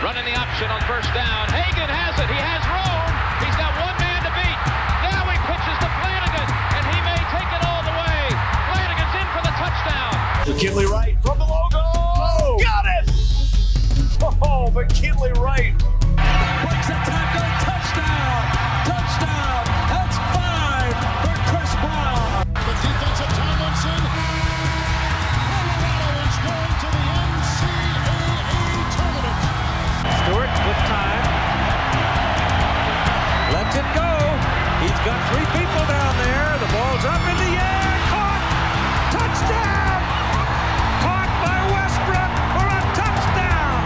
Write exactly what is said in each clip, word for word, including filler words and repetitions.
Running the option on first down. Hagan has it. He has room. He's got one man to beat. Now he pitches to Flanagan, and he may take it all the way. Flanagan's in for the touchdown. McKinley Wright from the logo. Oh, got it! Oh, McKinley Wright. Breaks a tackle. Touchdown. Touchdown. That's five for Chris Brown. The defensive Tomlinson. Colorado is going to the N C double A tournament. Stewart with time. Lets it go. He's got three people down there. The ball's up in the air. Caught. Touchdown. Caught by Westbrook for a touchdown.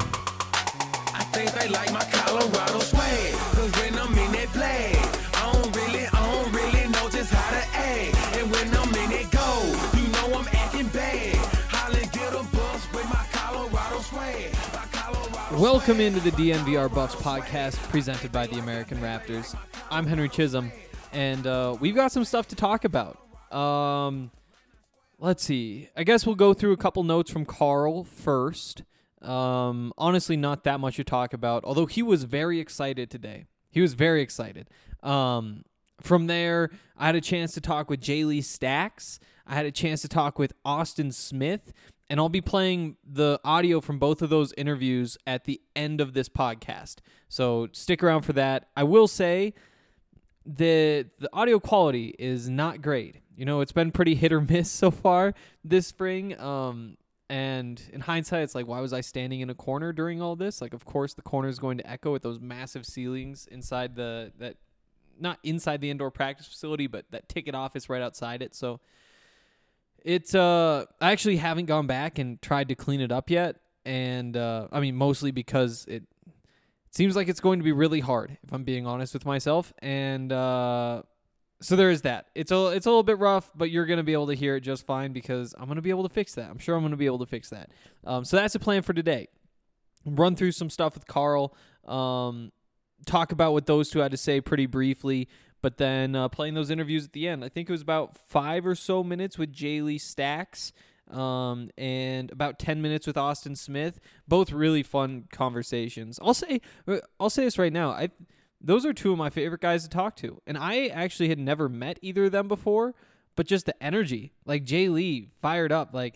I think they like my Colorado swag. Cause when I'm in that play, I don't really, I don't really know just how to act. And when I'm in it go, you know I'm acting bad. Holly get a bus with my Colorado swag. My Colorado Welcome into the D N V R Buffs podcast presented by the American Raptors. I'm Henry Chisholm, and uh, we've got some stuff to talk about. Um, let's see. I guess we'll go through a couple notes from Carl first. Um, honestly, not that much to talk about, although he was very excited today. He was very excited. Um, from there, I had a chance to talk with Jay Lee Stacks. I had a chance to talk with Austin Smith, and I'll be playing the audio from both of those interviews at the end of this podcast. So stick around for that. I will say the the audio quality is not great. You know, it's been pretty hit or miss so far this spring. Um, and in hindsight, it's like, why was I standing in a corner during all this? Like, of course, the corner is going to echo with those massive ceilings inside the that not inside the indoor practice facility, but that ticket office right outside it. So it's uh, I actually haven't gone back and tried to clean it up yet, and uh, I mean mostly because it. Seems like it's going to be really hard, if I'm being honest with myself. And uh, so there is that. It's a, it's a little bit rough, but you're going to be able to hear it just fine because I'm going to be able to fix that. I'm sure I'm going to be able to fix that. Um, so that's the plan for today. Run through some stuff with Carl. Um, talk about what those two had to say pretty briefly. But then uh, playing those interviews at the end. I think it was about five or so minutes with Jay Lee Stacks. Um, and about ten minutes with Austin Smith, both really fun conversations. I'll say, I'll say this right now. I, those are two of my favorite guys to talk to. And I actually had never met either of them before, but just the energy, like Jay Lee fired up, like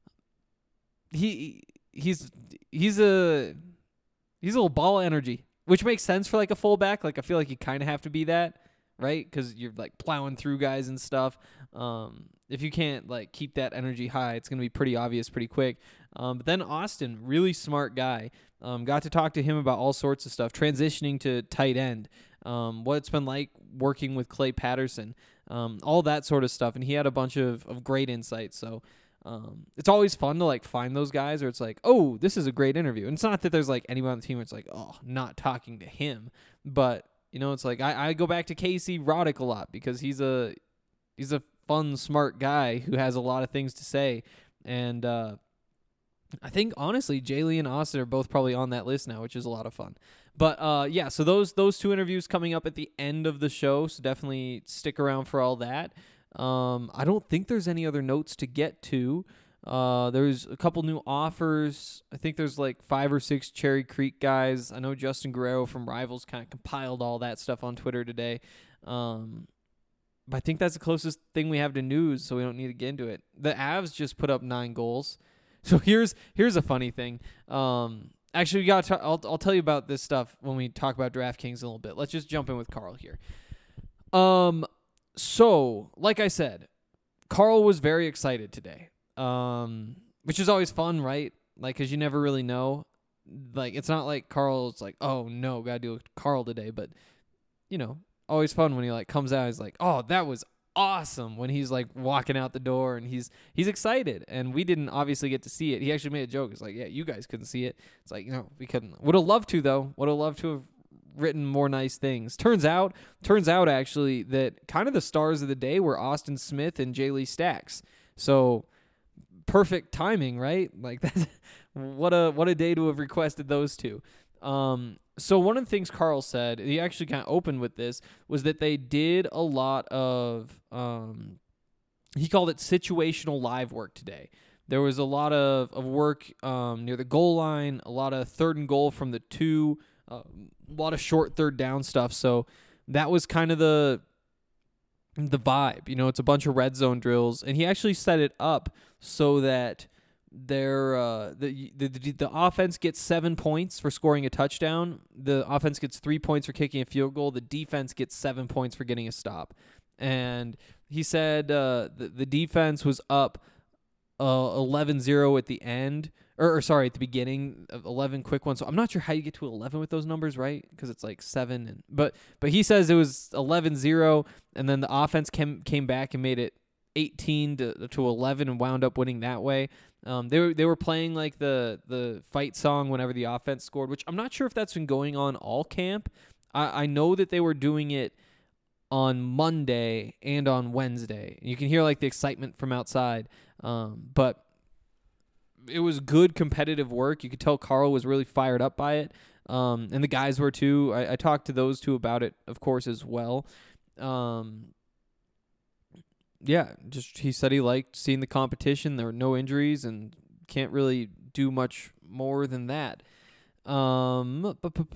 he, he's, he's a, he's a little ball of energy, which makes sense for like a fullback. Like I feel like you kind of have to be that, right? Cause you're like plowing through guys and stuff. Um, If you can't like keep that energy high, it's going to be pretty obvious pretty quick. Um, but then Austin, really smart guy. Um, got to talk to him about all sorts of stuff, transitioning to tight end, um, what it's been like working with Clay Patterson, um, all that sort of stuff. And he had a bunch of, of great insights. So um, it's always fun to like find those guys where it's like, oh, this is a great interview. And it's not that there's like anyone on the team where it's like, oh, not talking to him. But, you know, it's like I, I go back to Casey Roddick a lot because he's a he's a fun, smart guy who has a lot of things to say. And uh, I think, honestly, Jay Lee and Austin are both probably on that list now, which is a lot of fun. But, uh, yeah, so those those two interviews coming up at the end of the show, so definitely stick around for all that. Um, I don't think there's any other notes to get to. Uh, there's a couple new offers. I think there's like five or six Cherry Creek guys. I know Justin Guerrero from Rivals kind of compiled all that stuff on Twitter today. Um But I think that's the closest thing we have to news, so we don't need to get into it. The Avs just put up nine goals. So here's here's a funny thing. Um, actually, we got. To, I'll I'll tell you about this stuff when we talk about DraftKings a little bit. Let's just jump in with Carl here. Um, so like I said, Carl was very excited today. Um, which is always fun, right? Like, cause you never really know. Like, it's not like Carl's like, oh no, gotta do with Carl today, but you know. Always fun when he like comes out. He's like, "Oh, that was awesome!" When he's like walking out the door and he's he's excited. And we didn't obviously get to see it. He actually made a joke. It's like, "Yeah, you guys couldn't see it." It's like, you know, we couldn't. Would have loved to though. Would have loved to have written more nice things. Turns out, turns out actually that kind of the stars of the day were Austin Smith and Jay Lee Stacks. So perfect timing, right? Like that's what a what a day to have requested those two. Um, so one of the things Carl said, he actually kind of opened with this, was that they did a lot of, um, he called it situational live work today. There was a lot of, of work um, near the goal line, a lot of third and goal from the two, uh, a lot of short third down stuff. So that was kind of the the vibe. You know, it's a bunch of red zone drills, and he actually set it up so that their uh, the, the the the offense gets seven points for scoring a touchdown. The offense gets three points for kicking a field goal. The defense gets seven points for getting a stop. And he said uh, the the defense was up Uh, eleven zero at the end, or, or sorry, at the beginning of eleven quick ones. So I'm not sure how you get to eleven with those numbers, right? Because it's like seven, and but but he says it was eleven zero, and then the offense came came back and made it eighteen to to eleven and wound up winning that way. Um, they were they were playing like the the fight song whenever the offense scored, which I'm not sure if that's been going on all camp. I I know that they were doing it on Monday and on Wednesday. You can hear like the excitement from outside. Um, but it was good competitive work. You could tell Carl was really fired up by it. Um, and the guys were too. I, I talked to those two about it, of course, as well. Um, yeah, just he said he liked seeing the competition. There were no injuries and can't really do much more than that. Um,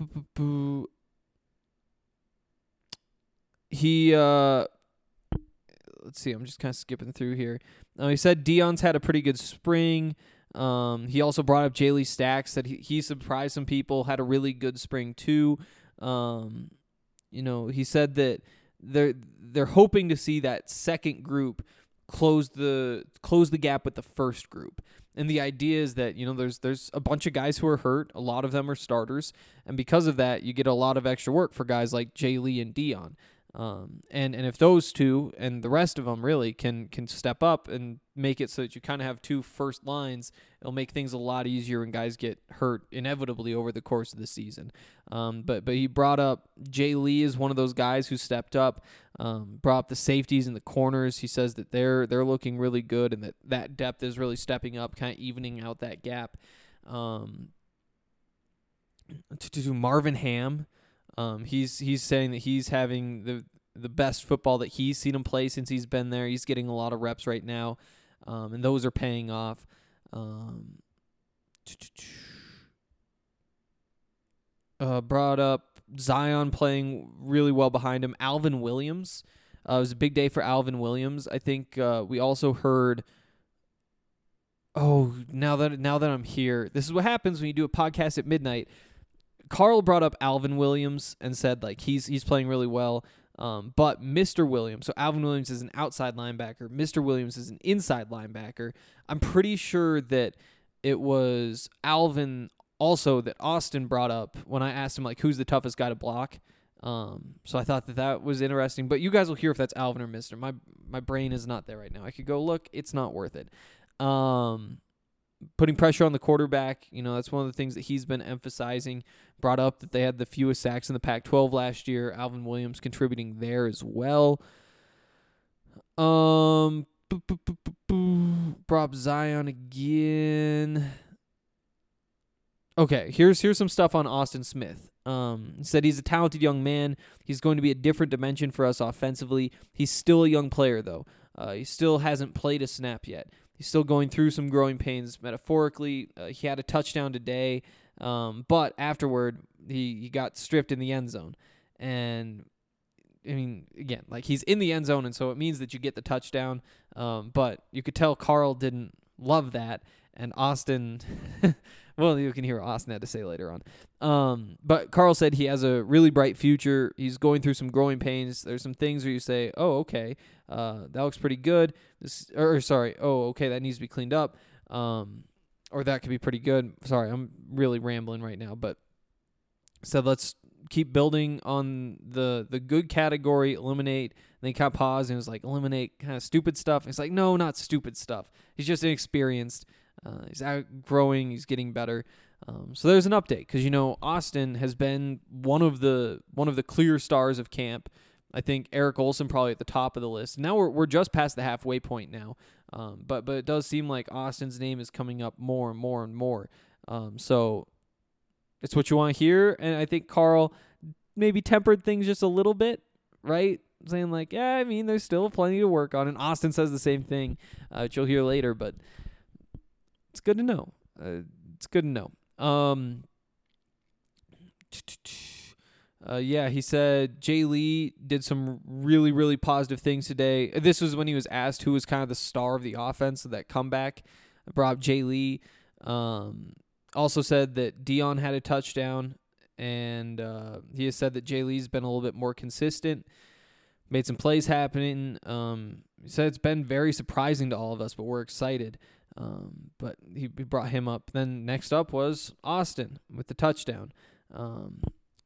he, uh, let's see, I'm just kind of skipping through here. Uh, he said Deion's had a pretty good spring. Um, he also brought up Jaylee Stacks, that he, he surprised some people, had a really good spring too. Um, you know, he said that they're they're hoping to see that second group close the close the gap with the first group. And the idea is that, you know, there's there's a bunch of guys who are hurt. A lot of them are starters, and because of that, you get a lot of extra work for guys like Jaylee and Deion. Um, and, and if those two and the rest of them really can, can step up and make it so that you kind of have two first lines, it'll make things a lot easier when guys get hurt inevitably over the course of the season. Um, but, but he brought up Jay Lee is one of those guys who stepped up, um, brought up the safeties and the corners. He says that they're, they're looking really good and that that depth is really stepping up, kind of evening out that gap. Um, to, to do Marvin Ham, Um, he's he's saying that he's having the the best football that he's seen him play since he's been there. He's getting a lot of reps right now, um, and those are paying off. Um, uh, brought up Zion playing really well behind him. Alvin Williams. Uh, it was a big day for Alvin Williams. I think uh, we also heard. Oh, now that now that I'm here, this is what happens when you do a podcast at midnight. Carl brought up Alvin Williams and said like he's he's playing really well, um, but Mister Williams, so Alvin Williams is an outside linebacker, Mister Williams is an inside linebacker. I'm pretty sure that it was Alvin also that Austin brought up when I asked him like who's the toughest guy to block. Um, so I thought that that was interesting, but you guys will hear if that's Alvin or Mister My my brain is not there right now. I could go look, it's not worth it. Um, Putting pressure on the quarterback, you know, that's one of the things that he's been emphasizing. Brought up that they had the fewest sacks in the Pac twelve last year. Alvin Williams contributing there as well. Um, boo, boo, boo, boo, boo. Brought up Zion again. Okay, here's here's some stuff on Austin Smith. Um, he said he's a talented young man. He's going to be a different dimension for us offensively. He's still a young player, though. Uh, he still hasn't played a snap yet. He's still going through some growing pains metaphorically. Uh, he had a touchdown today, um, but afterward, he, he got stripped in the end zone. And, I mean, again, like he's in the end zone, and so it means that you get the touchdown. Um, but you could tell Carl didn't love that, and Austin... Well, you can hear what Austin had to say later on. Um, but Carl said he has a really bright future. He's going through some growing pains. There's some things where you say, oh, okay, uh, that looks pretty good. This, or, sorry, oh, okay, that needs to be cleaned up. Um, or that could be pretty good. Sorry, I'm really rambling right now. But said let's keep building on the, the good category, eliminate. And then he kind of paused and was like, eliminate kind of stupid stuff. It's like, no, not stupid stuff. He's just inexperienced. Uh, he's outgrowing. He's getting better. Um, so there's an update because you know Austin has been one of the one of the clear stars of camp. I think Eric Olson probably at the top of the list. Now we're we're just past the halfway point now, um, but but it does seem like Austin's name is coming up more and more and more. Um, so it's what you want to hear, and I think Carl maybe tempered things just a little bit, right? Saying like, yeah, I mean, there's still plenty to work on, and Austin says the same thing, uh, which you'll hear later, but. it's good to know. Uh, it's good to know. Um, uh, yeah, he said Jay Lee did some really, really positive things today. This was when he was asked who was kind of the star of the offense of that comeback. I brought up Jay Lee. Um, also said that Dion had a touchdown, and uh, he has said that Jay Lee's been a little bit more consistent, made some plays happening. Um, he said it's been very surprising to all of us, but we're excited. Um, but he, he brought him up. Then next up was Austin with the touchdown. Um,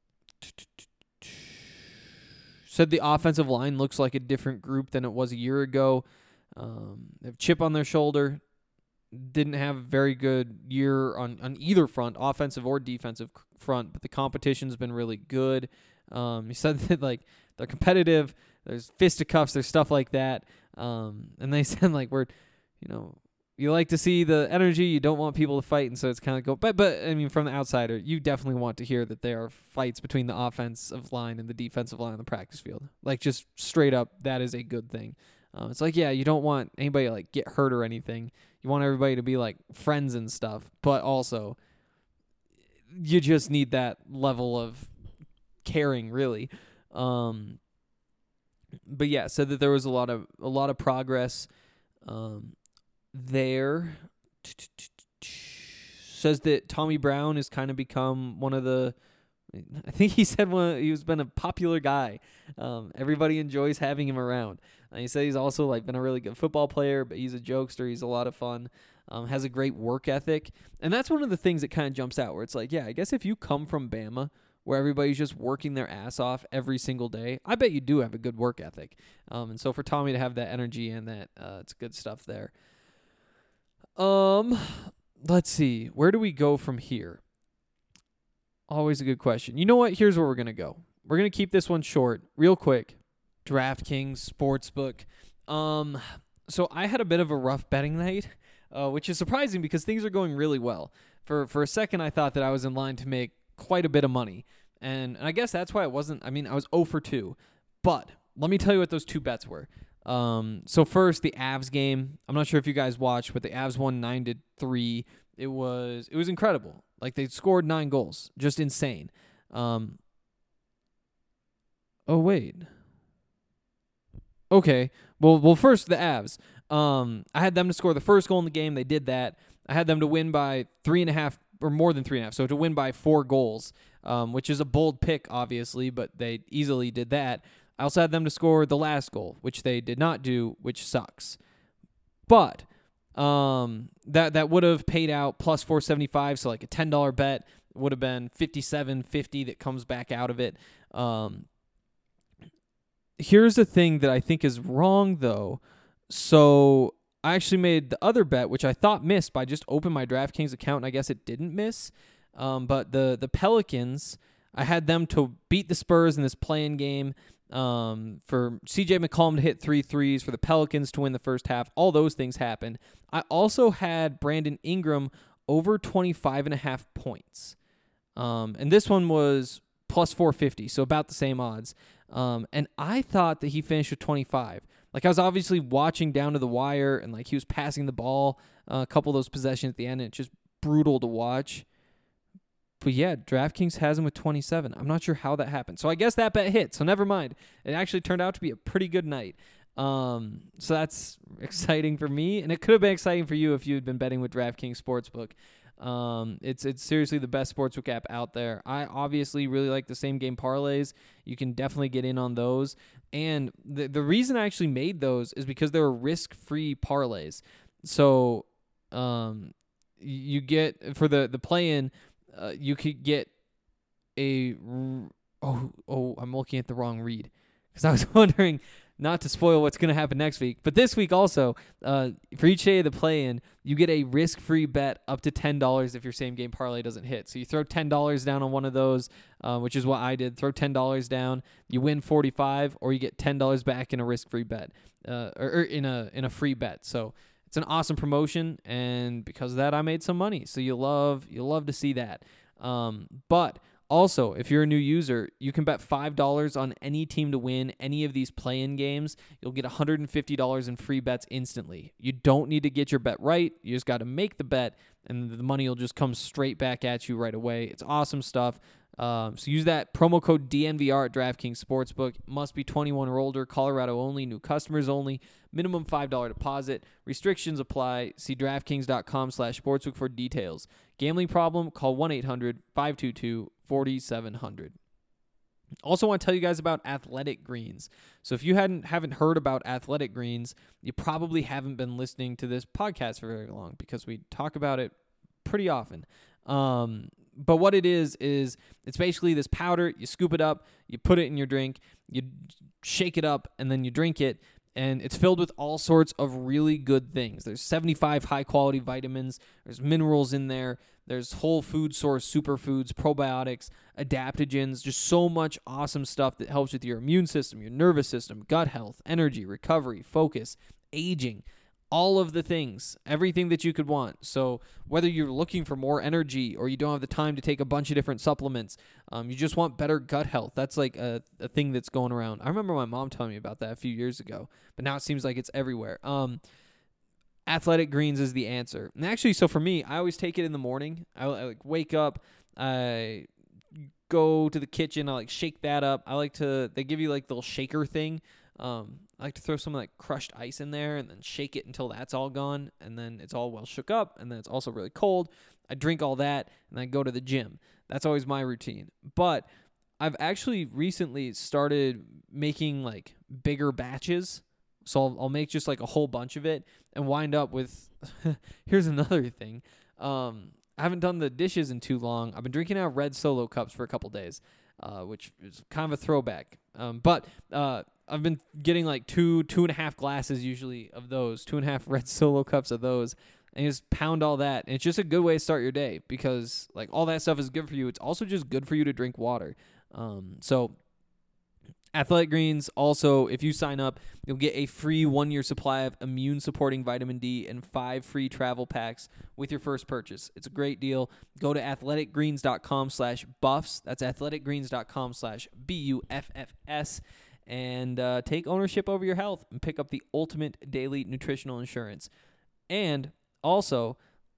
said the offensive line looks like a different group than it was a year ago. Um, they have chip on their shoulder. Didn't have a very good year on, on either front, offensive or defensive front, but the competition's been really good. Um, he said that like they're competitive. There's fisticuffs. There's stuff like that. Um, and they said like we're, you know, you like to see the energy. You don't want people to fight, and so it's kind of go. But but I mean, from the outsider, you definitely want to hear that there are fights between the offensive line and the defensive line on the practice field. Like just straight up, that is a good thing. Um, it's like yeah, you don't want anybody to like get hurt or anything. You want everybody to be like friends and stuff, but also you just need that level of caring, really. Um, but yeah, said that there was a lot of a lot of progress. Um, there says that Tommy Brown has kind of become one of the. I think he said one. He's been a popular guy. Um, everybody enjoys having him around. And he said he's also like been a really good football player, but he's a jokester. He's a lot of fun. Um, has a great work ethic, and that's one of the things that kind of jumps out. Where it's like, yeah, I guess if you come from Bama, where everybody's just working their ass off every single day, I bet you do have a good work ethic. Um, and so for Tommy to have that energy and that, uh, it's good stuff there. Um, let's see, where do we go from here? Always a good question. You know what? Here's where we're going to go. We're going to keep this one short, real quick. DraftKings Sportsbook. Um, so I had a bit of a rough betting night, uh, which is surprising because things are going really well. For for a second, I thought that I was in line to make quite a bit of money. And, and I guess that's why it wasn't, I mean, I was zero for two. But let me tell you what those two bets were. Um, so first, the Avs game. I'm not sure if you guys watched, but the Avs won nine to three. It was it was incredible. Like, they scored nine goals. Just insane. Um, oh, wait. Okay. Well, well, first, the Avs. Um, I had them to score the first goal in the game. They did that. I had them to win by three and a half, or more than three and a half. So to win by four goals, um, which is a bold pick, obviously, but they easily did that. I also had them to score the last goal, which they did not do, which sucks. But um, that that would have paid out plus four seventy-five, so like a ten dollar bet would have been fifty-seven fifty that comes back out of it. Um, here's the thing that I think is wrong, though. So I actually made the other bet, which I thought missed, but I just opened my DraftKings account, and I guess it didn't miss. Um, but the the Pelicans, I had them to beat the Spurs in this play-in game. Um, for C J McCollum to hit three threes, for the Pelicans to win the first half. All those things happened. I also had Brandon Ingram over twenty-five and a half points. Um, and this one was plus four fifty, so about the same odds. Um, and I thought that he finished with twenty-five. Like, I was obviously watching down to the wire, and like he was passing the ball uh, a couple of those possessions at the end, and it's just brutal to watch. But yeah, DraftKings has him with twenty-seven. I'm not sure how that happened. So I guess that bet hit. So never mind. It actually turned out to be a pretty good night. Um, so that's exciting for me. And it could have been exciting for you if you had been betting with DraftKings Sportsbook. Um, it's it's seriously the best sportsbook app out there. I obviously really like the same game parlays. You can definitely get in on those. And the, the reason I actually made those is because they were risk-free parlays. So um, you get, for the, the play-in, Uh, you could get a oh oh I'm looking at the wrong read because I was wondering not to spoil what's going to happen next week, but this week also uh, for each day of the play-in you get a risk-free bet up to ten dollars if your same game parlay doesn't hit. So you throw ten dollars down on one of those, uh, which is what I did. Throw ten dollars down, you win forty-five, or you get ten dollars back in a risk-free bet, uh, or, or in a in a free bet. So it's an awesome promotion, and because of that, I made some money. So you love you love to see that. Um, but Also, if you're a new user, you can bet five dollars on any team to win any of these play-in games. You'll get one hundred fifty dollars in free bets instantly. You don't need to get your bet right. You just got to make the bet, and the money will just come straight back at you right away. It's awesome stuff. Um, so use that promo code D N V R at DraftKings Sportsbook. Must be twenty-one or older. Colorado only. New customers only. Minimum five dollars deposit. Restrictions apply. See DraftKings.com slash sportsbook for details. Gambling problem? Call one eight hundred five two two four seven zero zero. Also want to tell you guys about Athletic Greens. So if you hadn't haven't heard about Athletic Greens, you probably haven't been listening to this podcast for very long because we talk about it pretty often. Um, but what it is, is it's basically this powder. You scoop it up, you put it in your drink, you shake it up, and then you drink it. And it's filled with all sorts of really good things. There's seventy-five high-quality vitamins. There's minerals in there. There's whole food source superfoods, probiotics, adaptogens, just so much awesome stuff that helps with your immune system, your nervous system, gut health, energy, recovery, focus, aging, all of the things, everything that you could want. So whether you're looking for more energy or you don't have the time to take a bunch of different supplements, um, you just want better gut health. That's like a, a thing that's going around. I remember my mom telling me about that a few years ago, but now it seems like it's everywhere. Um, Athletic Greens is the answer. And actually, so for me, I always take it in the morning. I, I like wake up, I go to the kitchen, I like shake that up. I like to, they give you like the little shaker thing. Um, I like to throw some like crushed ice in there and then shake it until that's all gone. And then it's all well shook up. And then it's also really cold. I drink all that and I go to the gym. That's always my routine. But I've actually recently started making like bigger batches. So I'll, I'll make just like a whole bunch of it and wind up with, here's another thing. Um, I haven't done the dishes in too long. I've been drinking out red Solo cups for a couple days, uh, which is kind of a throwback. Um, but uh, I've been getting like two, two and a half glasses usually of those, two and a half red Solo cups of those, and you just pound all that. And it's just a good way to start your day because like all that stuff is good for you. It's also just good for you to drink water. Um, so Athletic Greens, also, if you sign up, you'll get a free one-year supply of immune-supporting vitamin D and five free travel packs with your first purchase. It's a great deal. Go to athleticgreens.com slash buffs. That's athleticgreens.com slash B U F F S. And uh, take ownership over your health and pick up the ultimate daily nutritional insurance. And also,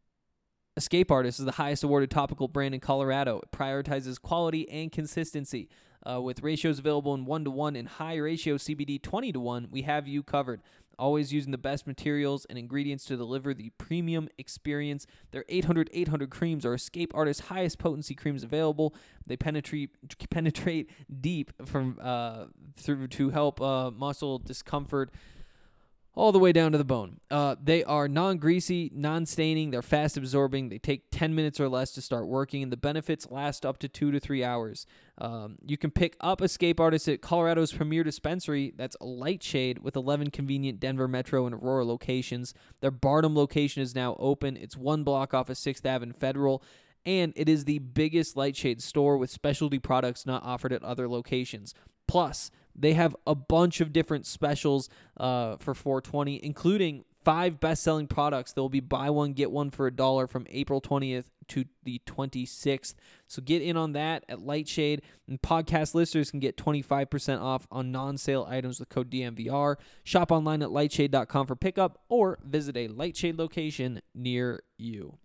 Escape Artist is the highest awarded topical brand in Colorado. It prioritizes quality and consistency. Uh, with ratios available in one to one and high ratio C B D twenty to one, we have you covered. Always using the best materials and ingredients to deliver the premium experience. Their eight hundred eight hundred creams are Escape Artist's highest potency creams available. They penetrate penetrate deep from uh, through to help uh, muscle discomfort all the way down to the bone. Uh, they are non-greasy, non-staining. They're fast-absorbing. They take ten minutes or less to start working, and the benefits last up to two to three hours. Um, you can pick up Escape Artist at Colorado's premier dispensary. That's Lightshade, with eleven convenient Denver Metro and Aurora locations. Their Barnum location is now open. It's one block off of sixth Avenue and Federal, and it is the biggest Lightshade store with specialty products not offered at other locations. Plus, they have a bunch of different specials uh, for four twenty, including five best-selling products that will be buy one, get one for a dollar from April twentieth to the twenty-sixth. So get in on that at Lightshade, and podcast listeners can get twenty-five percent off on non-sale items with code D M V R. Shop online at lightshade dot com for pickup or visit a Lightshade location near you.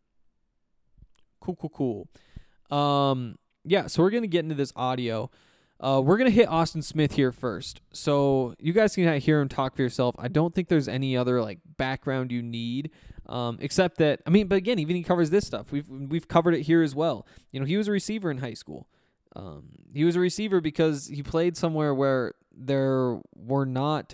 Cool, cool, cool. Um, yeah, so we're going to get into this audio. Uh, we're going to hit Austin Smith here first. So you guys can hear him talk for yourself. I don't think there's any other like background you need, um, except that, I mean, but again, even he covers this stuff. We've we've covered it here as well. You know, he was a receiver in high school. Um, he was a receiver because he played somewhere where there were not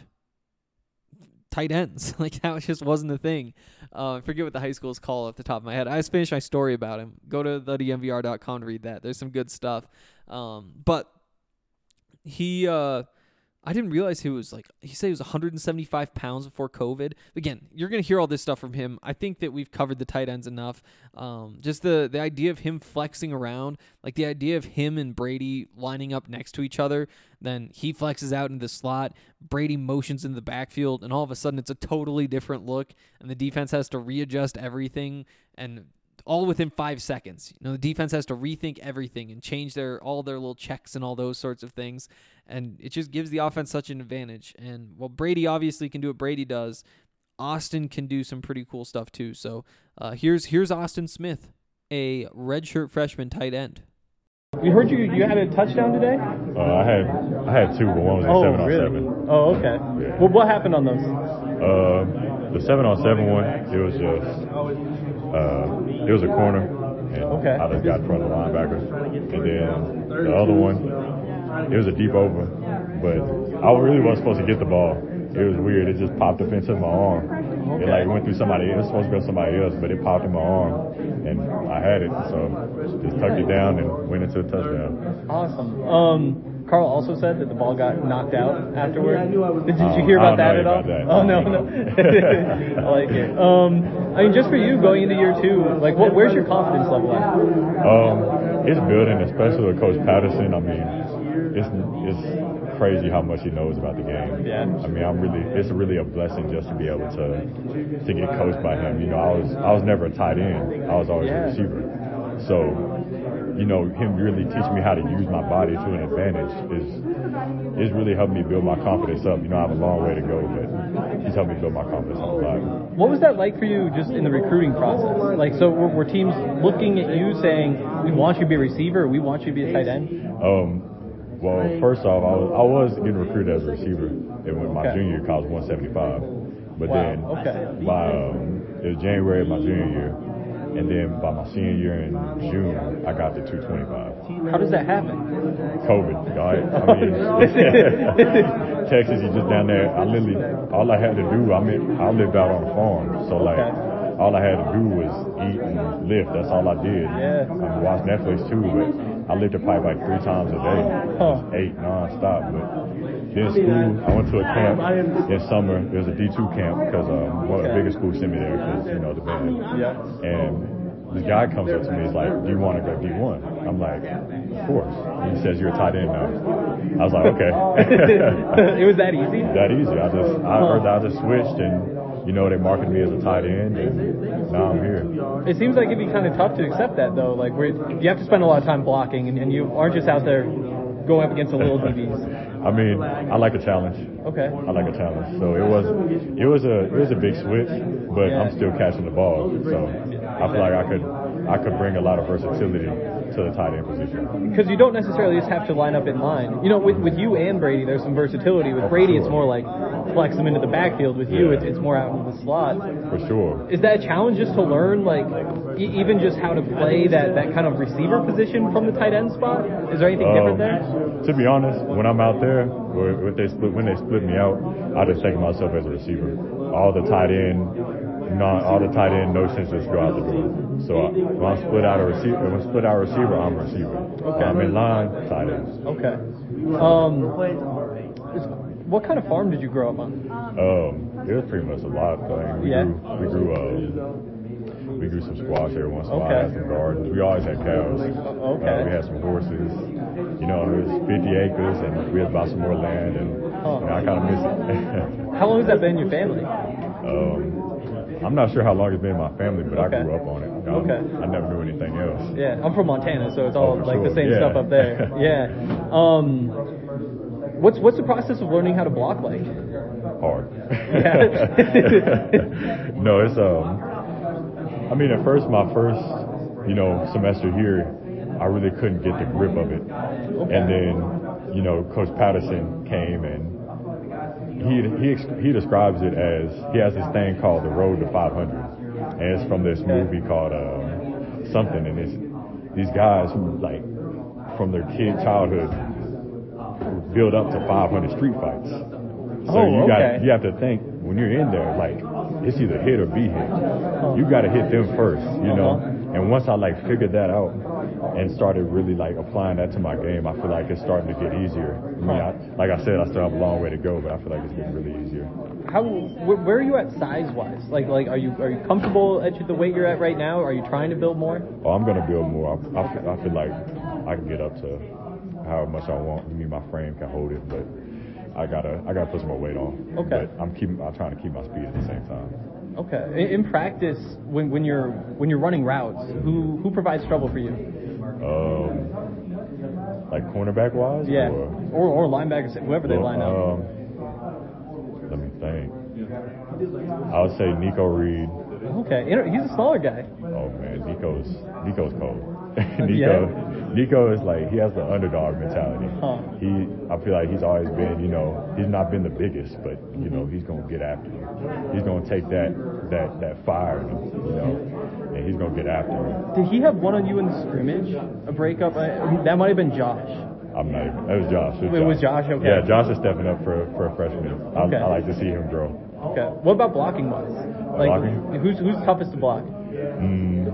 tight ends. Like, that just wasn't a thing. Uh, I forget what the high school is called off the top of my head. I just finished my story about him. Go to the D M V R dot com to read that. There's some good stuff. Um, but He, uh, I didn't realize he was like, he said he was one hundred seventy-five pounds before COVID. Again, you're going to hear all this stuff from him. I think that we've covered the tight ends enough. Um, just the, the idea of him flexing around, like the idea of him and Brady lining up next to each other, then he flexes out into the slot, Brady motions in the backfield, and all of a sudden it's a totally different look, and the defense has to readjust everything, and all within five seconds. You know, the defense has to rethink everything and change their all their little checks and all those sorts of things, and it just gives the offense such an advantage. And while Brady obviously can do what Brady does, Austin can do some pretty cool stuff too. So uh, here's here's Austin Smith, a redshirt freshman tight end. We heard you you had a touchdown today? Uh, I had I had two, but one was a oh, seven really? on seven. Oh, okay. Yeah. Well, what happened on those? Uh, the seven on seven one, it was just uh, it was a corner, and okay. I just got in front of the linebacker. And then the other one, it was a deep over, but I really wasn't supposed to get the ball. It was weird. It just popped up into my arm. Okay. It like went through somebody. It was supposed to go somebody else, but it popped in my arm, and I had it. So just tucked it down and went into a touchdown. Awesome. Um, Carl also said that the ball got knocked out afterward. Did, did um, you hear about I that don't at know all? about that. Oh no, no. I like it. Um, I mean, just for you going into year two, like, what? Where's your confidence level at? Um, it's building, especially with Coach Patterson. I mean, it's it's. crazy how much he knows about the game. Yeah. I mean, I'm really, it's really a blessing just to be able to to get coached by him. You know, I was I was never a tight end. I was always yeah. a receiver. So, you know, him really teaching me how to use my body to an advantage is is really helped me build my confidence up. You know, I have a long way to go, but he's helped me build my confidence up a lot. What was that like for you just in the recruiting process? Like, so were, were teams looking at you saying, we want you to be a receiver, or we want you to be a tight end? Um, Well, first off, I was, I was getting recruited as a receiver in my okay. junior year, I was one seventy-five. But wow. then, okay. by um, it was January of my junior year, and then by my senior year in June, I got to two twenty-five. How does that happen? COVID, right? I mean, Texas, you just down there. I literally, all I had to do, I mean, I lived out on a farm, so like. Okay. All I had to do was eat and lift. That's all I did. Yeah. I mean, watch Netflix too, but I lifted probably like three times a day. Huh. Just ate nonstop. But then school, I went to a camp in summer. It was a D two camp because um, one of the biggest schools sent me there because, you know, the band. Yeah. And this guy comes up to me, he's like, do you want to go D one? I'm like, of course. He says, you're a tight end now. I was like, okay. It was that easy? That easy. I just, I, huh. I just switched and, you know, they marketed me as a tight end, and now I'm here. It seems like it'd be kind of tough to accept that, though. Like, where you have to spend a lot of time blocking, and, and you aren't just out there going up against the little D Bs. I mean, I like a challenge. Okay. I like a challenge. So it was, it was a, it was a big switch, but yeah. I'm still catching the ball. So I feel like I could, I could bring a lot of versatility to the tight end position. Because you don't necessarily just have to line up in line. You know, with with you and Brady, there's some versatility. With oh, Brady, sure. it's more like flex them into the backfield. With you, yeah. it's, it's more out into the slot. For sure. Is that a challenge just to learn, like, e- even just how to play that, that kind of receiver position from the tight end spot? Is there anything um, different there? To be honest, when I'm out there, or when they split, when they split me out, I just think of myself as a receiver. All the tight end, non, all the tight end notions just go out the door. So I, when I'm split out a receiver, when I'm split out a receiver, I'm a receiver. Okay. I'm in line, tight end. Okay. Um, what kind of farm did you grow up on? Um, it was pretty much a lot. I mean, we yeah. grew, we grew, um, we grew some squash every once in a while. Okay. Had some gardens. We always had cows. Okay. Uh, we had some horses. You know, it was fifty acres, and we had bought some more land, and huh. you know, I kind of miss it. How long has that been in your family? Um, I'm not sure how long it's been in my family, but okay. I grew up on it. You know, okay. I never knew anything else. Yeah, I'm from Montana, so it's all oh, like sure. the same yeah. stuff up there. Yeah. Um, what's what's the process of learning how to block like? Hard. Yeah. No, it's um. I mean, at first, my first, you know, semester here, I really couldn't get the grip of it. Okay. And then, you know, Coach Patterson came and he he he describes it as he has this thing called the Road to five hundred, and it's from this movie called uh, something, and it's these guys who like from their kid childhood build up to five hundred street fights. So oh, you okay. got you have to think when you're in there, like it's either hit or be hit. You got to hit them first, you know. Uh-huh. And once I like figured that out and started really like applying that to my game, I feel like it's starting to get easier. I mean, I, like I said, I still have a long way to go, but I feel like it's getting really easier. How wh- where are you at size wise? Like like are you are you comfortable at the weight you're at right now? Are you trying to build more? Oh, I'm gonna build more. I, I, feel, I feel like I can get up to however much I want. I mean, my frame can hold it, but I gotta I gotta put some more weight on. Okay. But I'm keeping I'm trying to keep my speed at the same time. Okay. In, in practice, when, when you're when you're running routes, who who provides trouble for you? Um, like cornerback wise? Yeah. Or, Or or linebackers, whoever they well, line up. um, let me think. I would say Nico Reed. Okay. You know, he's a smaller guy. Oh man, Nico's Nico's cold. Nico, Yeah. Nico is like he has the underdog mentality. Huh. He, I feel like he's always been, you know, he's not been the biggest, but you know, he's gonna get after you. He's gonna take that that that fire, in him, you know, and he's gonna get after you. Did he have one on you in the scrimmage? A breakup? I, that might have been Josh. I'm not even. It was Josh. It was, It was Josh, okay. Yeah, Josh is stepping up for for a freshman. I, Okay. I like to see him grow. Okay. What about blocking wise? Like, Blocking? who's who's toughest to block? Mm,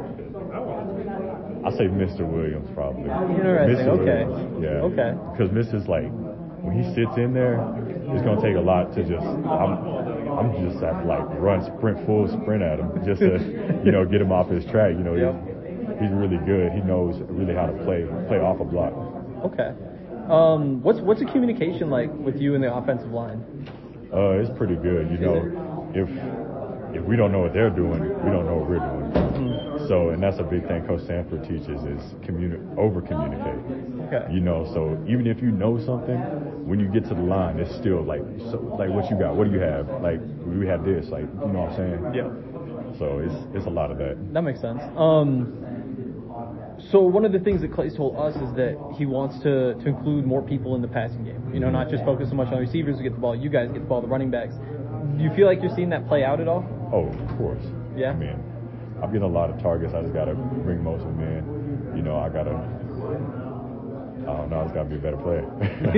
I say Mister Williams probably. Interesting, Mister okay. Williams, yeah. Okay. Because Mister's like, when he sits in there, it's gonna take a lot to just. I'm, I'm just have to like run, sprint, full sprint at him just to, you know, get him off his track. You know, Yep. he's, he's really good. He knows really how to play play off a block. Okay. Um, what's what's the communication like with you and the offensive line? Uh, it's pretty good. You know, if if we don't know what they're doing, we don't know what we're doing. Mm-hmm. So, and that's a big thing Coach Sanford teaches is communi- over communicate. Okay. You know, so even if you know something, when you get to the line, it's still like, so, like what you got, what do you have? Like we have this, like you know what I'm saying? Yeah. So it's it's a lot of that. That makes sense. Um, so one of the things that Clay's told us is that he wants to, to include more people in the passing game. You know, not just focus so much on receivers who get the ball. You guys get the ball, the running backs. Do you feel like you're seeing that play out at all? Oh, of course. Yeah. I mean, I'm getting a lot of targets. I just got to bring most of them in. You know, I got to, I don't know, I just got to be a better player.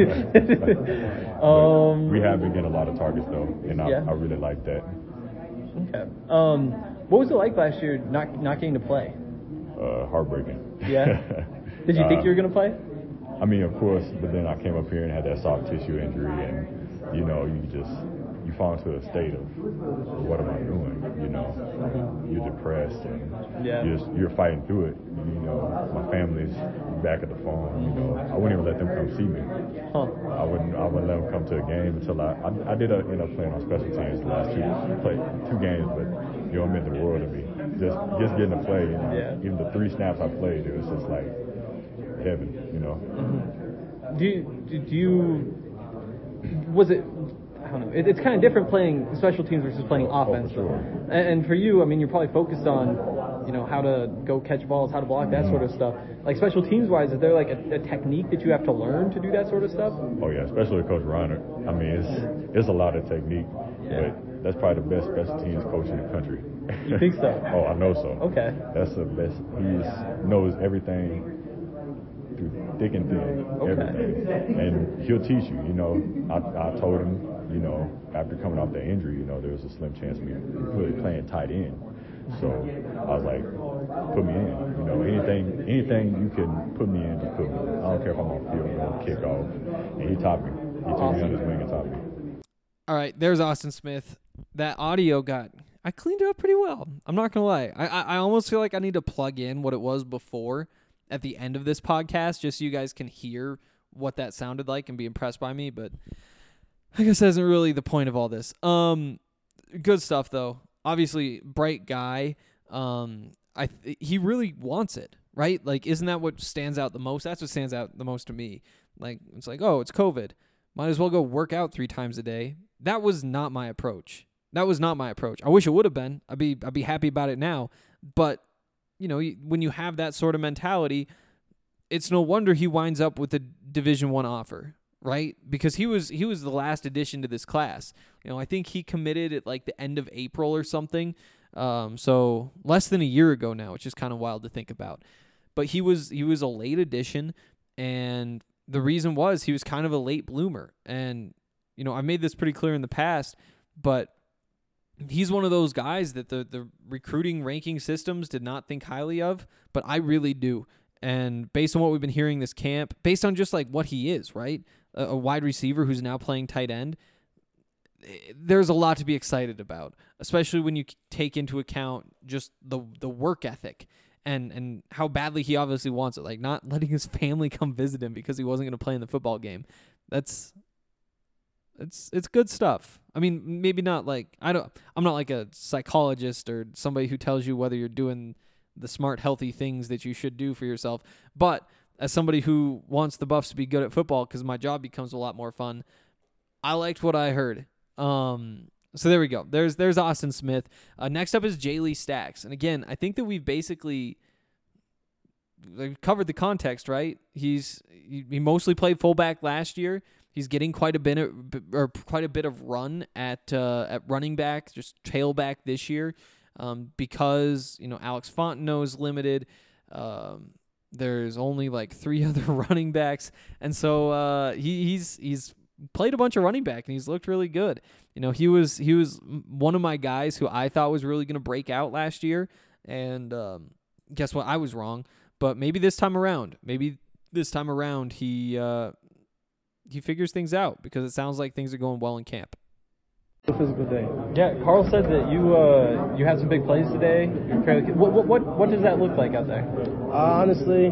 um, we have been getting a lot of targets, though, and I, Yeah. I really like that. Okay. Um, what was it like last year not not getting to play? Uh, heartbreaking. Yeah. Did you think Uh, you were going to play? I mean, of course, but then I came up here and had that soft tissue injury, and, you know, you just, you fall into a state of, what am I doing? You know, you're depressed, and Yeah. you're, just, you're fighting through it. You know, my family's back at the farm, you know, I wouldn't even let them come see me. Huh. I wouldn't, I wouldn't let them come to a game until I, I, I did uh, end up playing on special teams the last two, played two games, but, you know, it meant the world to me. Just, just getting to play, you know, Yeah. even the three snaps I played, it was just like heaven, you know. Do you, do do you, was it, I don't know, it, it's kind of different playing special teams versus playing Oh, for offense. sure. And, and for you, I mean, you're probably focused on, you know, how to go catch balls, how to block, that sort of stuff. Like special teams wise, is there like a, a technique that you have to learn to do that sort of stuff? Oh yeah, especially with Coach Reiner. I mean, it's it's a lot of technique, Yeah. but that's probably the best special teams coach in the country. You think so? Oh, I know so. Okay. That's the best. He knows everything through thick and thin, Okay. everything, and he'll teach you. You know, I, I told him, you know, after coming off that injury, you know, there was a slim chance of me really playing tight end. So I was like, put me in. You know, anything, anything you can put me in, just put me. I don't care if I'm on field goal, kickoff. And he taught me. He took me on his wing and taught me. All right, there's Austin Smith. That audio got, I cleaned it up pretty well. I'm not going to lie. I, I I almost feel like I need to plug in what it was before at the end of this podcast just so you guys can hear what that sounded like and be impressed by me. But I guess that isn't really the point of all this. Um, good stuff, though. Obviously, bright guy. Um, I th- he really wants it, right? Like, isn't that what stands out the most? That's what stands out the most to me. Like, it's like, oh, it's COVID. Might as well go work out three times a day. That was not my approach. That was not my approach. I wish it would have been. I'd be I'd be happy about it now. But, you know, when you have that sort of mentality, it's no wonder he winds up with a Division One offer, right? Because he was he was the last addition to this class. You know, I think he committed at like the end of April or something. Um, so less than a year ago now, which is kind of wild to think about. But he was he was a late addition, and the reason was he was kind of a late bloomer. And, you know, I made this pretty clear in the past, but he's one of those guys that the, the recruiting ranking systems did not think highly of, but I really do. And based on what we've been hearing this camp, based on just like what he is, right? A, a wide receiver who's now playing tight end, there's a lot to be excited about, especially when you take into account just the the work ethic and, and how badly he obviously wants it. Like not letting his family come visit him because he wasn't going to play in the football game. That's it's it's good stuff. I mean, maybe not like I don't. I'm not like a psychologist or somebody who tells you whether you're doing the smart, healthy things that you should do for yourself. But as somebody who wants the Buffs to be good at football, because my job becomes a lot more fun, I liked what I heard. Um, so there we go. There's there's Austin Smith. Uh, next up is Jay Lee Stacks, and again, I think that we've basically like, covered the context, right? He's he, he mostly played fullback last year. He's getting quite a bit of, or quite a bit of run at uh, at running back, just tailback this year, um, because you know Alex Fontenot's limited. Um, there's only like three other running backs, and so uh, he, he's he's played a bunch of running back, and he's looked really good. You know, he was he was one of my guys who I thought was really going to break out last year, and um, guess what? I was wrong. But maybe this time around, maybe this time around he. Uh, He figures things out because it sounds like things are going well in camp. Physical day. Yeah, Carl said that you uh, you had some big plays today. You're fairly, what, what what what does that look like out there? Uh, honestly,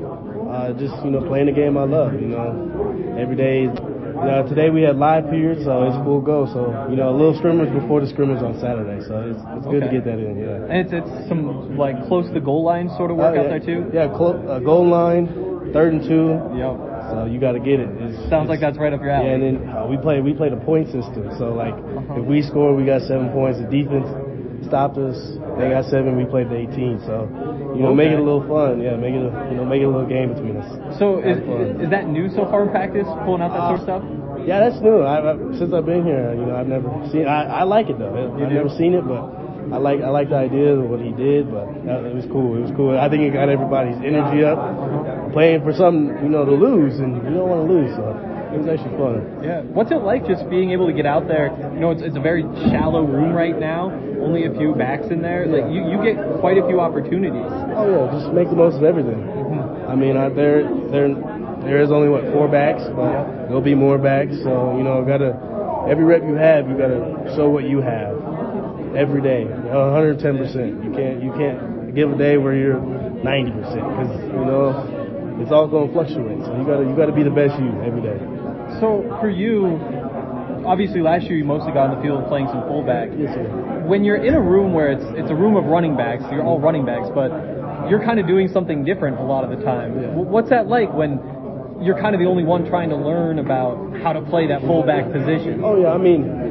uh, just you know playing the game I love. You know, every day. Uh, today we had live periods, so it's full go. So you know, a little scrimmage before the scrimmage on Saturday. So it's it's good okay. to get that in. Yeah. And it's it's some like close to the goal line sort of work uh, out yeah. there too. Yeah, clo- uh, goal line, third and two. Yep. So you got to get it. It's, Sounds it's, like that's right up your alley. Yeah, and then uh, we play we played a point system. So like uh-huh. if we score, we got seven points. The defense stopped us. They got seven. We played the eighteen. So you know, okay. make it a little fun. Yeah, make it a, you know make it a little game between us. So is, is that new so far in practice? Pulling out that uh, sort of stuff? Yeah, that's new. I, I, since I've been here, you know, I've never seen. I, I like it though. I've never seen it, but I like I like the idea of what he did. But that, it was cool. It was cool. I think it got everybody's energy up. Playing for something, you know, to lose, and you don't want to lose. So it was actually fun. Yeah. What's it like just being able to get out there? You know, it's it's a very shallow room right now. Only a few backs in there. Like you, you get quite a few opportunities. Oh yeah, just make the most of everything. Mm-hmm. I mean, I, there there there is only what four backs, but yeah. there'll be more backs. So you know, gotta every rep you have, you gotta show what you have every day, one hundred ten percent. You can't you can't give a day where you're ninety percent because you know. It's all going to fluctuate, so you got to you got to be the best you every day. So for you, obviously last year you mostly got on the field playing some fullback. Yes, sir. When you're in a room where it's it's a room of running backs, you're all running backs, but you're kind of doing something different a lot of the time. Yeah. What's that like when you're kind of the only one trying to learn about how to play that fullback position? Oh yeah, I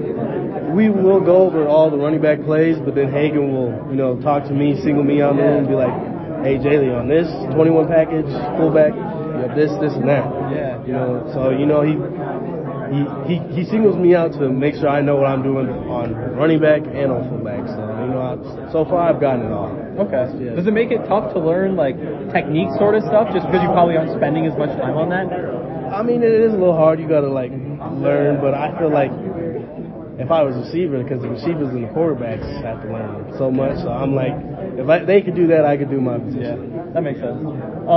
mean, we will go over all the running back plays, but then Hagan will you know talk to me, single me out there, and be like, hey, Jay Lee, on this twenty-one package, fullback, you have this, this, and that. Yeah. You know, so, you know, he he he, he singles me out to make sure I know what I'm doing on running back and on fullback. So, you know, I, so far I've gotten it all. Okay. Yeah. Does it make it tough to learn, like, technique sort of stuff, just because you probably aren't spending as much time on that? I mean, it is a little hard. You got to, like, learn, but I feel like if I was a receiver, because the receivers and the quarterbacks have to learn so much, so I'm like, if I, they could do that, I could do my position. Yeah, that makes sense.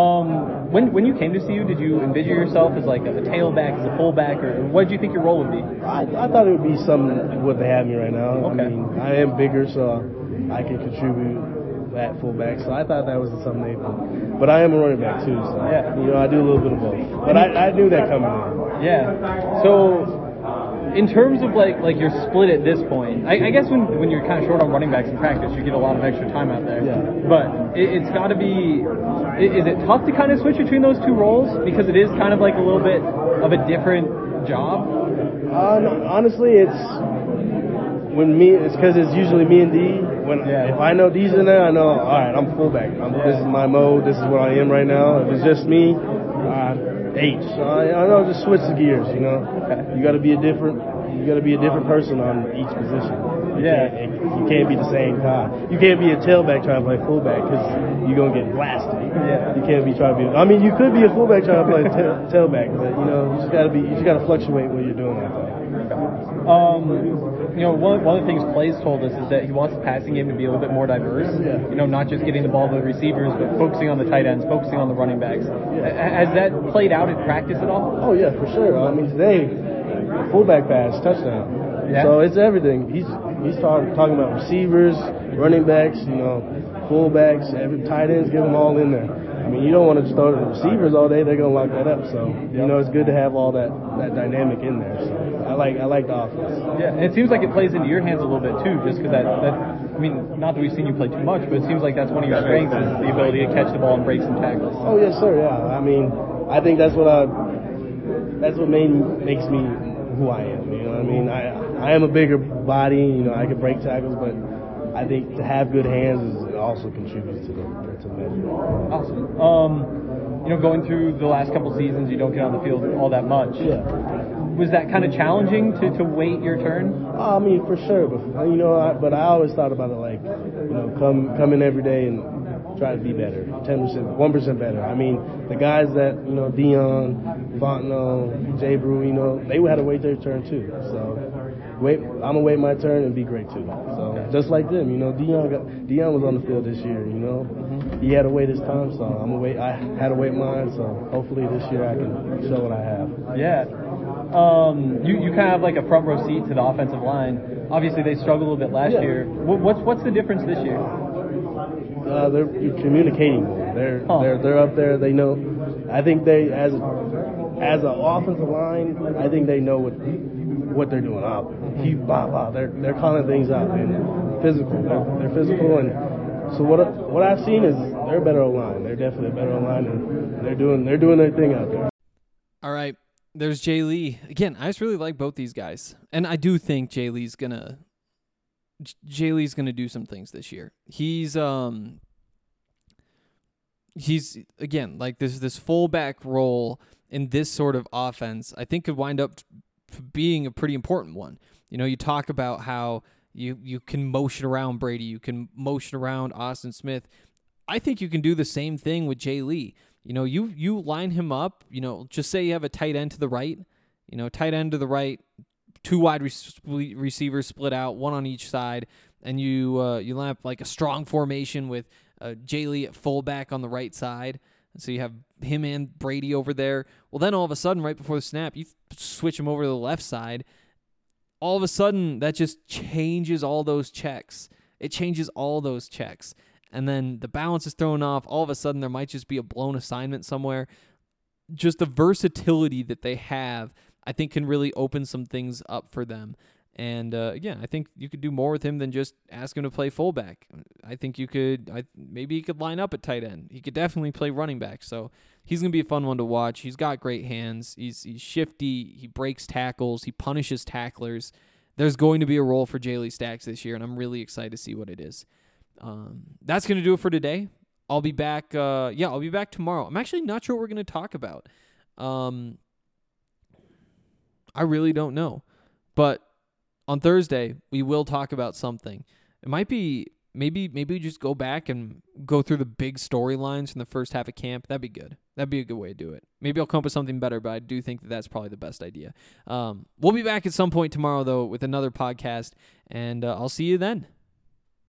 Um, when when you came to C U, did you envision yourself as like a, a tailback, as a fullback, or what did you think your role would be? I, I thought it would be something what they have me right now. Okay. I mean, I am bigger, so I can contribute at fullback, so I thought that was something they put. But I am a running back too, so yeah. you know, I do a little bit of both. But I, I knew that coming in. Yeah. So, in terms of like like your split at this point, I, I guess when when you're kind of short on running backs in practice, you get a lot of extra time out there. Yeah. But it, it's got to be. Is it tough to kind of switch between those two roles because it is kind of like a little bit of a different job? Uh, no, honestly, it's when me. It's because it's usually me and D. When yeah. if I know D's in there, I know. All right, I'm fullback. I'm, Yeah. This is my mode. This is what I am right now. If it's just me, uh, H. So I, I know, just switch the gears. You know, Okay. you got to be a different. You got to be a different person on each position. You Yeah. Can't, you can't be the same guy. You can't be a tailback trying to play fullback because you're gonna get blasted. Yeah. You can't be trying to be. I mean, you could be a fullback trying to play ta- tailback, but you know, you just got to be. You just got to fluctuate what you're doing out there. Um, you know, one, one of the things Clay's told us is that he wants the passing game to be a little bit more diverse. Yeah. You know, not just getting the ball to the receivers, but focusing on the tight ends, focusing on the running backs. Yeah. Has that played out in practice at all? Oh yeah, for sure. I mean, today, fullback pass, touchdown. Yeah. So it's everything. He's he's talking talking about receivers, running backs, you know, fullbacks, every tight ends, get them all in there. I mean, you don't want to just throw it to the receivers all day; they're gonna lock that up. So you know, it's good to have all that, that dynamic in there. So I like I like the offense. Yeah, and it seems like it plays into your hands a little bit too, just because that, that I mean, not that we've seen you play too much, but it seems like that's one of your strengths is the ability to catch the ball and break some tackles. Oh yes, sir. Yeah, I mean, I think that's what I that's what made makes me who I am. You know what I mean? I I am a bigger body. You know, I can break tackles, but I think to have good hands is also contributes to the to the measure. Awesome. Um, you know, going through the last couple seasons, you don't get on the field all that much. Yeah. Was that kind of challenging to, to wait your turn? I mean, for sure, but you know, I, but I always thought about it like, you know, come come in every day and try to be better, ten percent, one percent better. I mean, the guys that you know, Dion, Fontenot, Jay Brew, you know, they had to wait their turn too. So, wait, I'm gonna wait my turn and be great too. So, okay. Just like them, you know, Dion got Dion was on the field this year. You know, mm-hmm. He had to wait his time, so I'm gonna wait. I had to wait mine, so hopefully this year I can show what I have. Yeah. Um, you, you kind of have like a front row seat to the offensive line. Obviously, they struggled a little bit last yeah. year. What, what's what's the difference this year? Uh, they're communicating more. They're huh. they're they're up there. They know. I think they as as an offensive line, I think they know what what they're doing. Uh, he, blah, blah. They're they're calling things out and physical. They're, they're physical, and so what what I've seen is they're a better line. They're definitely a better line, and they're doing they're doing their thing out there. All right. There's Jay Lee. Again, I just really like both these guys. And I do think Jay Lee's gonna Jay Lee's gonna do some things this year. He's um he's again like this this fullback role in this sort of offense, I think could wind up being a pretty important one. You know, you talk about how you you can motion around Brady, you can motion around Austin Smith. I think you can do the same thing with Jay Lee. You know, you you line him up, you know, just say you have a tight end to the right, you know, tight end to the right, two wide re- receivers split out, one on each side, and you uh, you line up like a strong formation with uh, Jay Lee at fullback on the right side. So you have him and Brady over there. Well, then all of a sudden, right before the snap, you switch him over to the left side. All of a sudden, that just changes all those checks. It changes all those checks. And then the balance is thrown off. All of a sudden, there might just be a blown assignment somewhere. Just the versatility that they have, I think, can really open some things up for them. And, uh, again, I think you could do more with him than just ask him to play fullback. I think you could I, – maybe he could line up at tight end. He could definitely play running back. So he's going to be a fun one to watch. He's got great hands. He's, he's shifty. He breaks tackles. He punishes tacklers. There's going to be a role for Jay Lee Stacks this year, and I'm really excited to see what it is. Um, that's going to do it for today. I'll be back. Uh, yeah, I'll be back tomorrow. I'm actually not sure what we're going to talk about. Um, I really don't know. But on Thursday, we will talk about something. It might be, maybe, maybe we just go back and go through the big storylines from the first half of camp. That'd be good. That'd be a good way to do it. Maybe I'll come up with something better, but I do think that that's probably the best idea. Um, we'll be back at some point tomorrow, though, with another podcast, and uh, I'll see you then.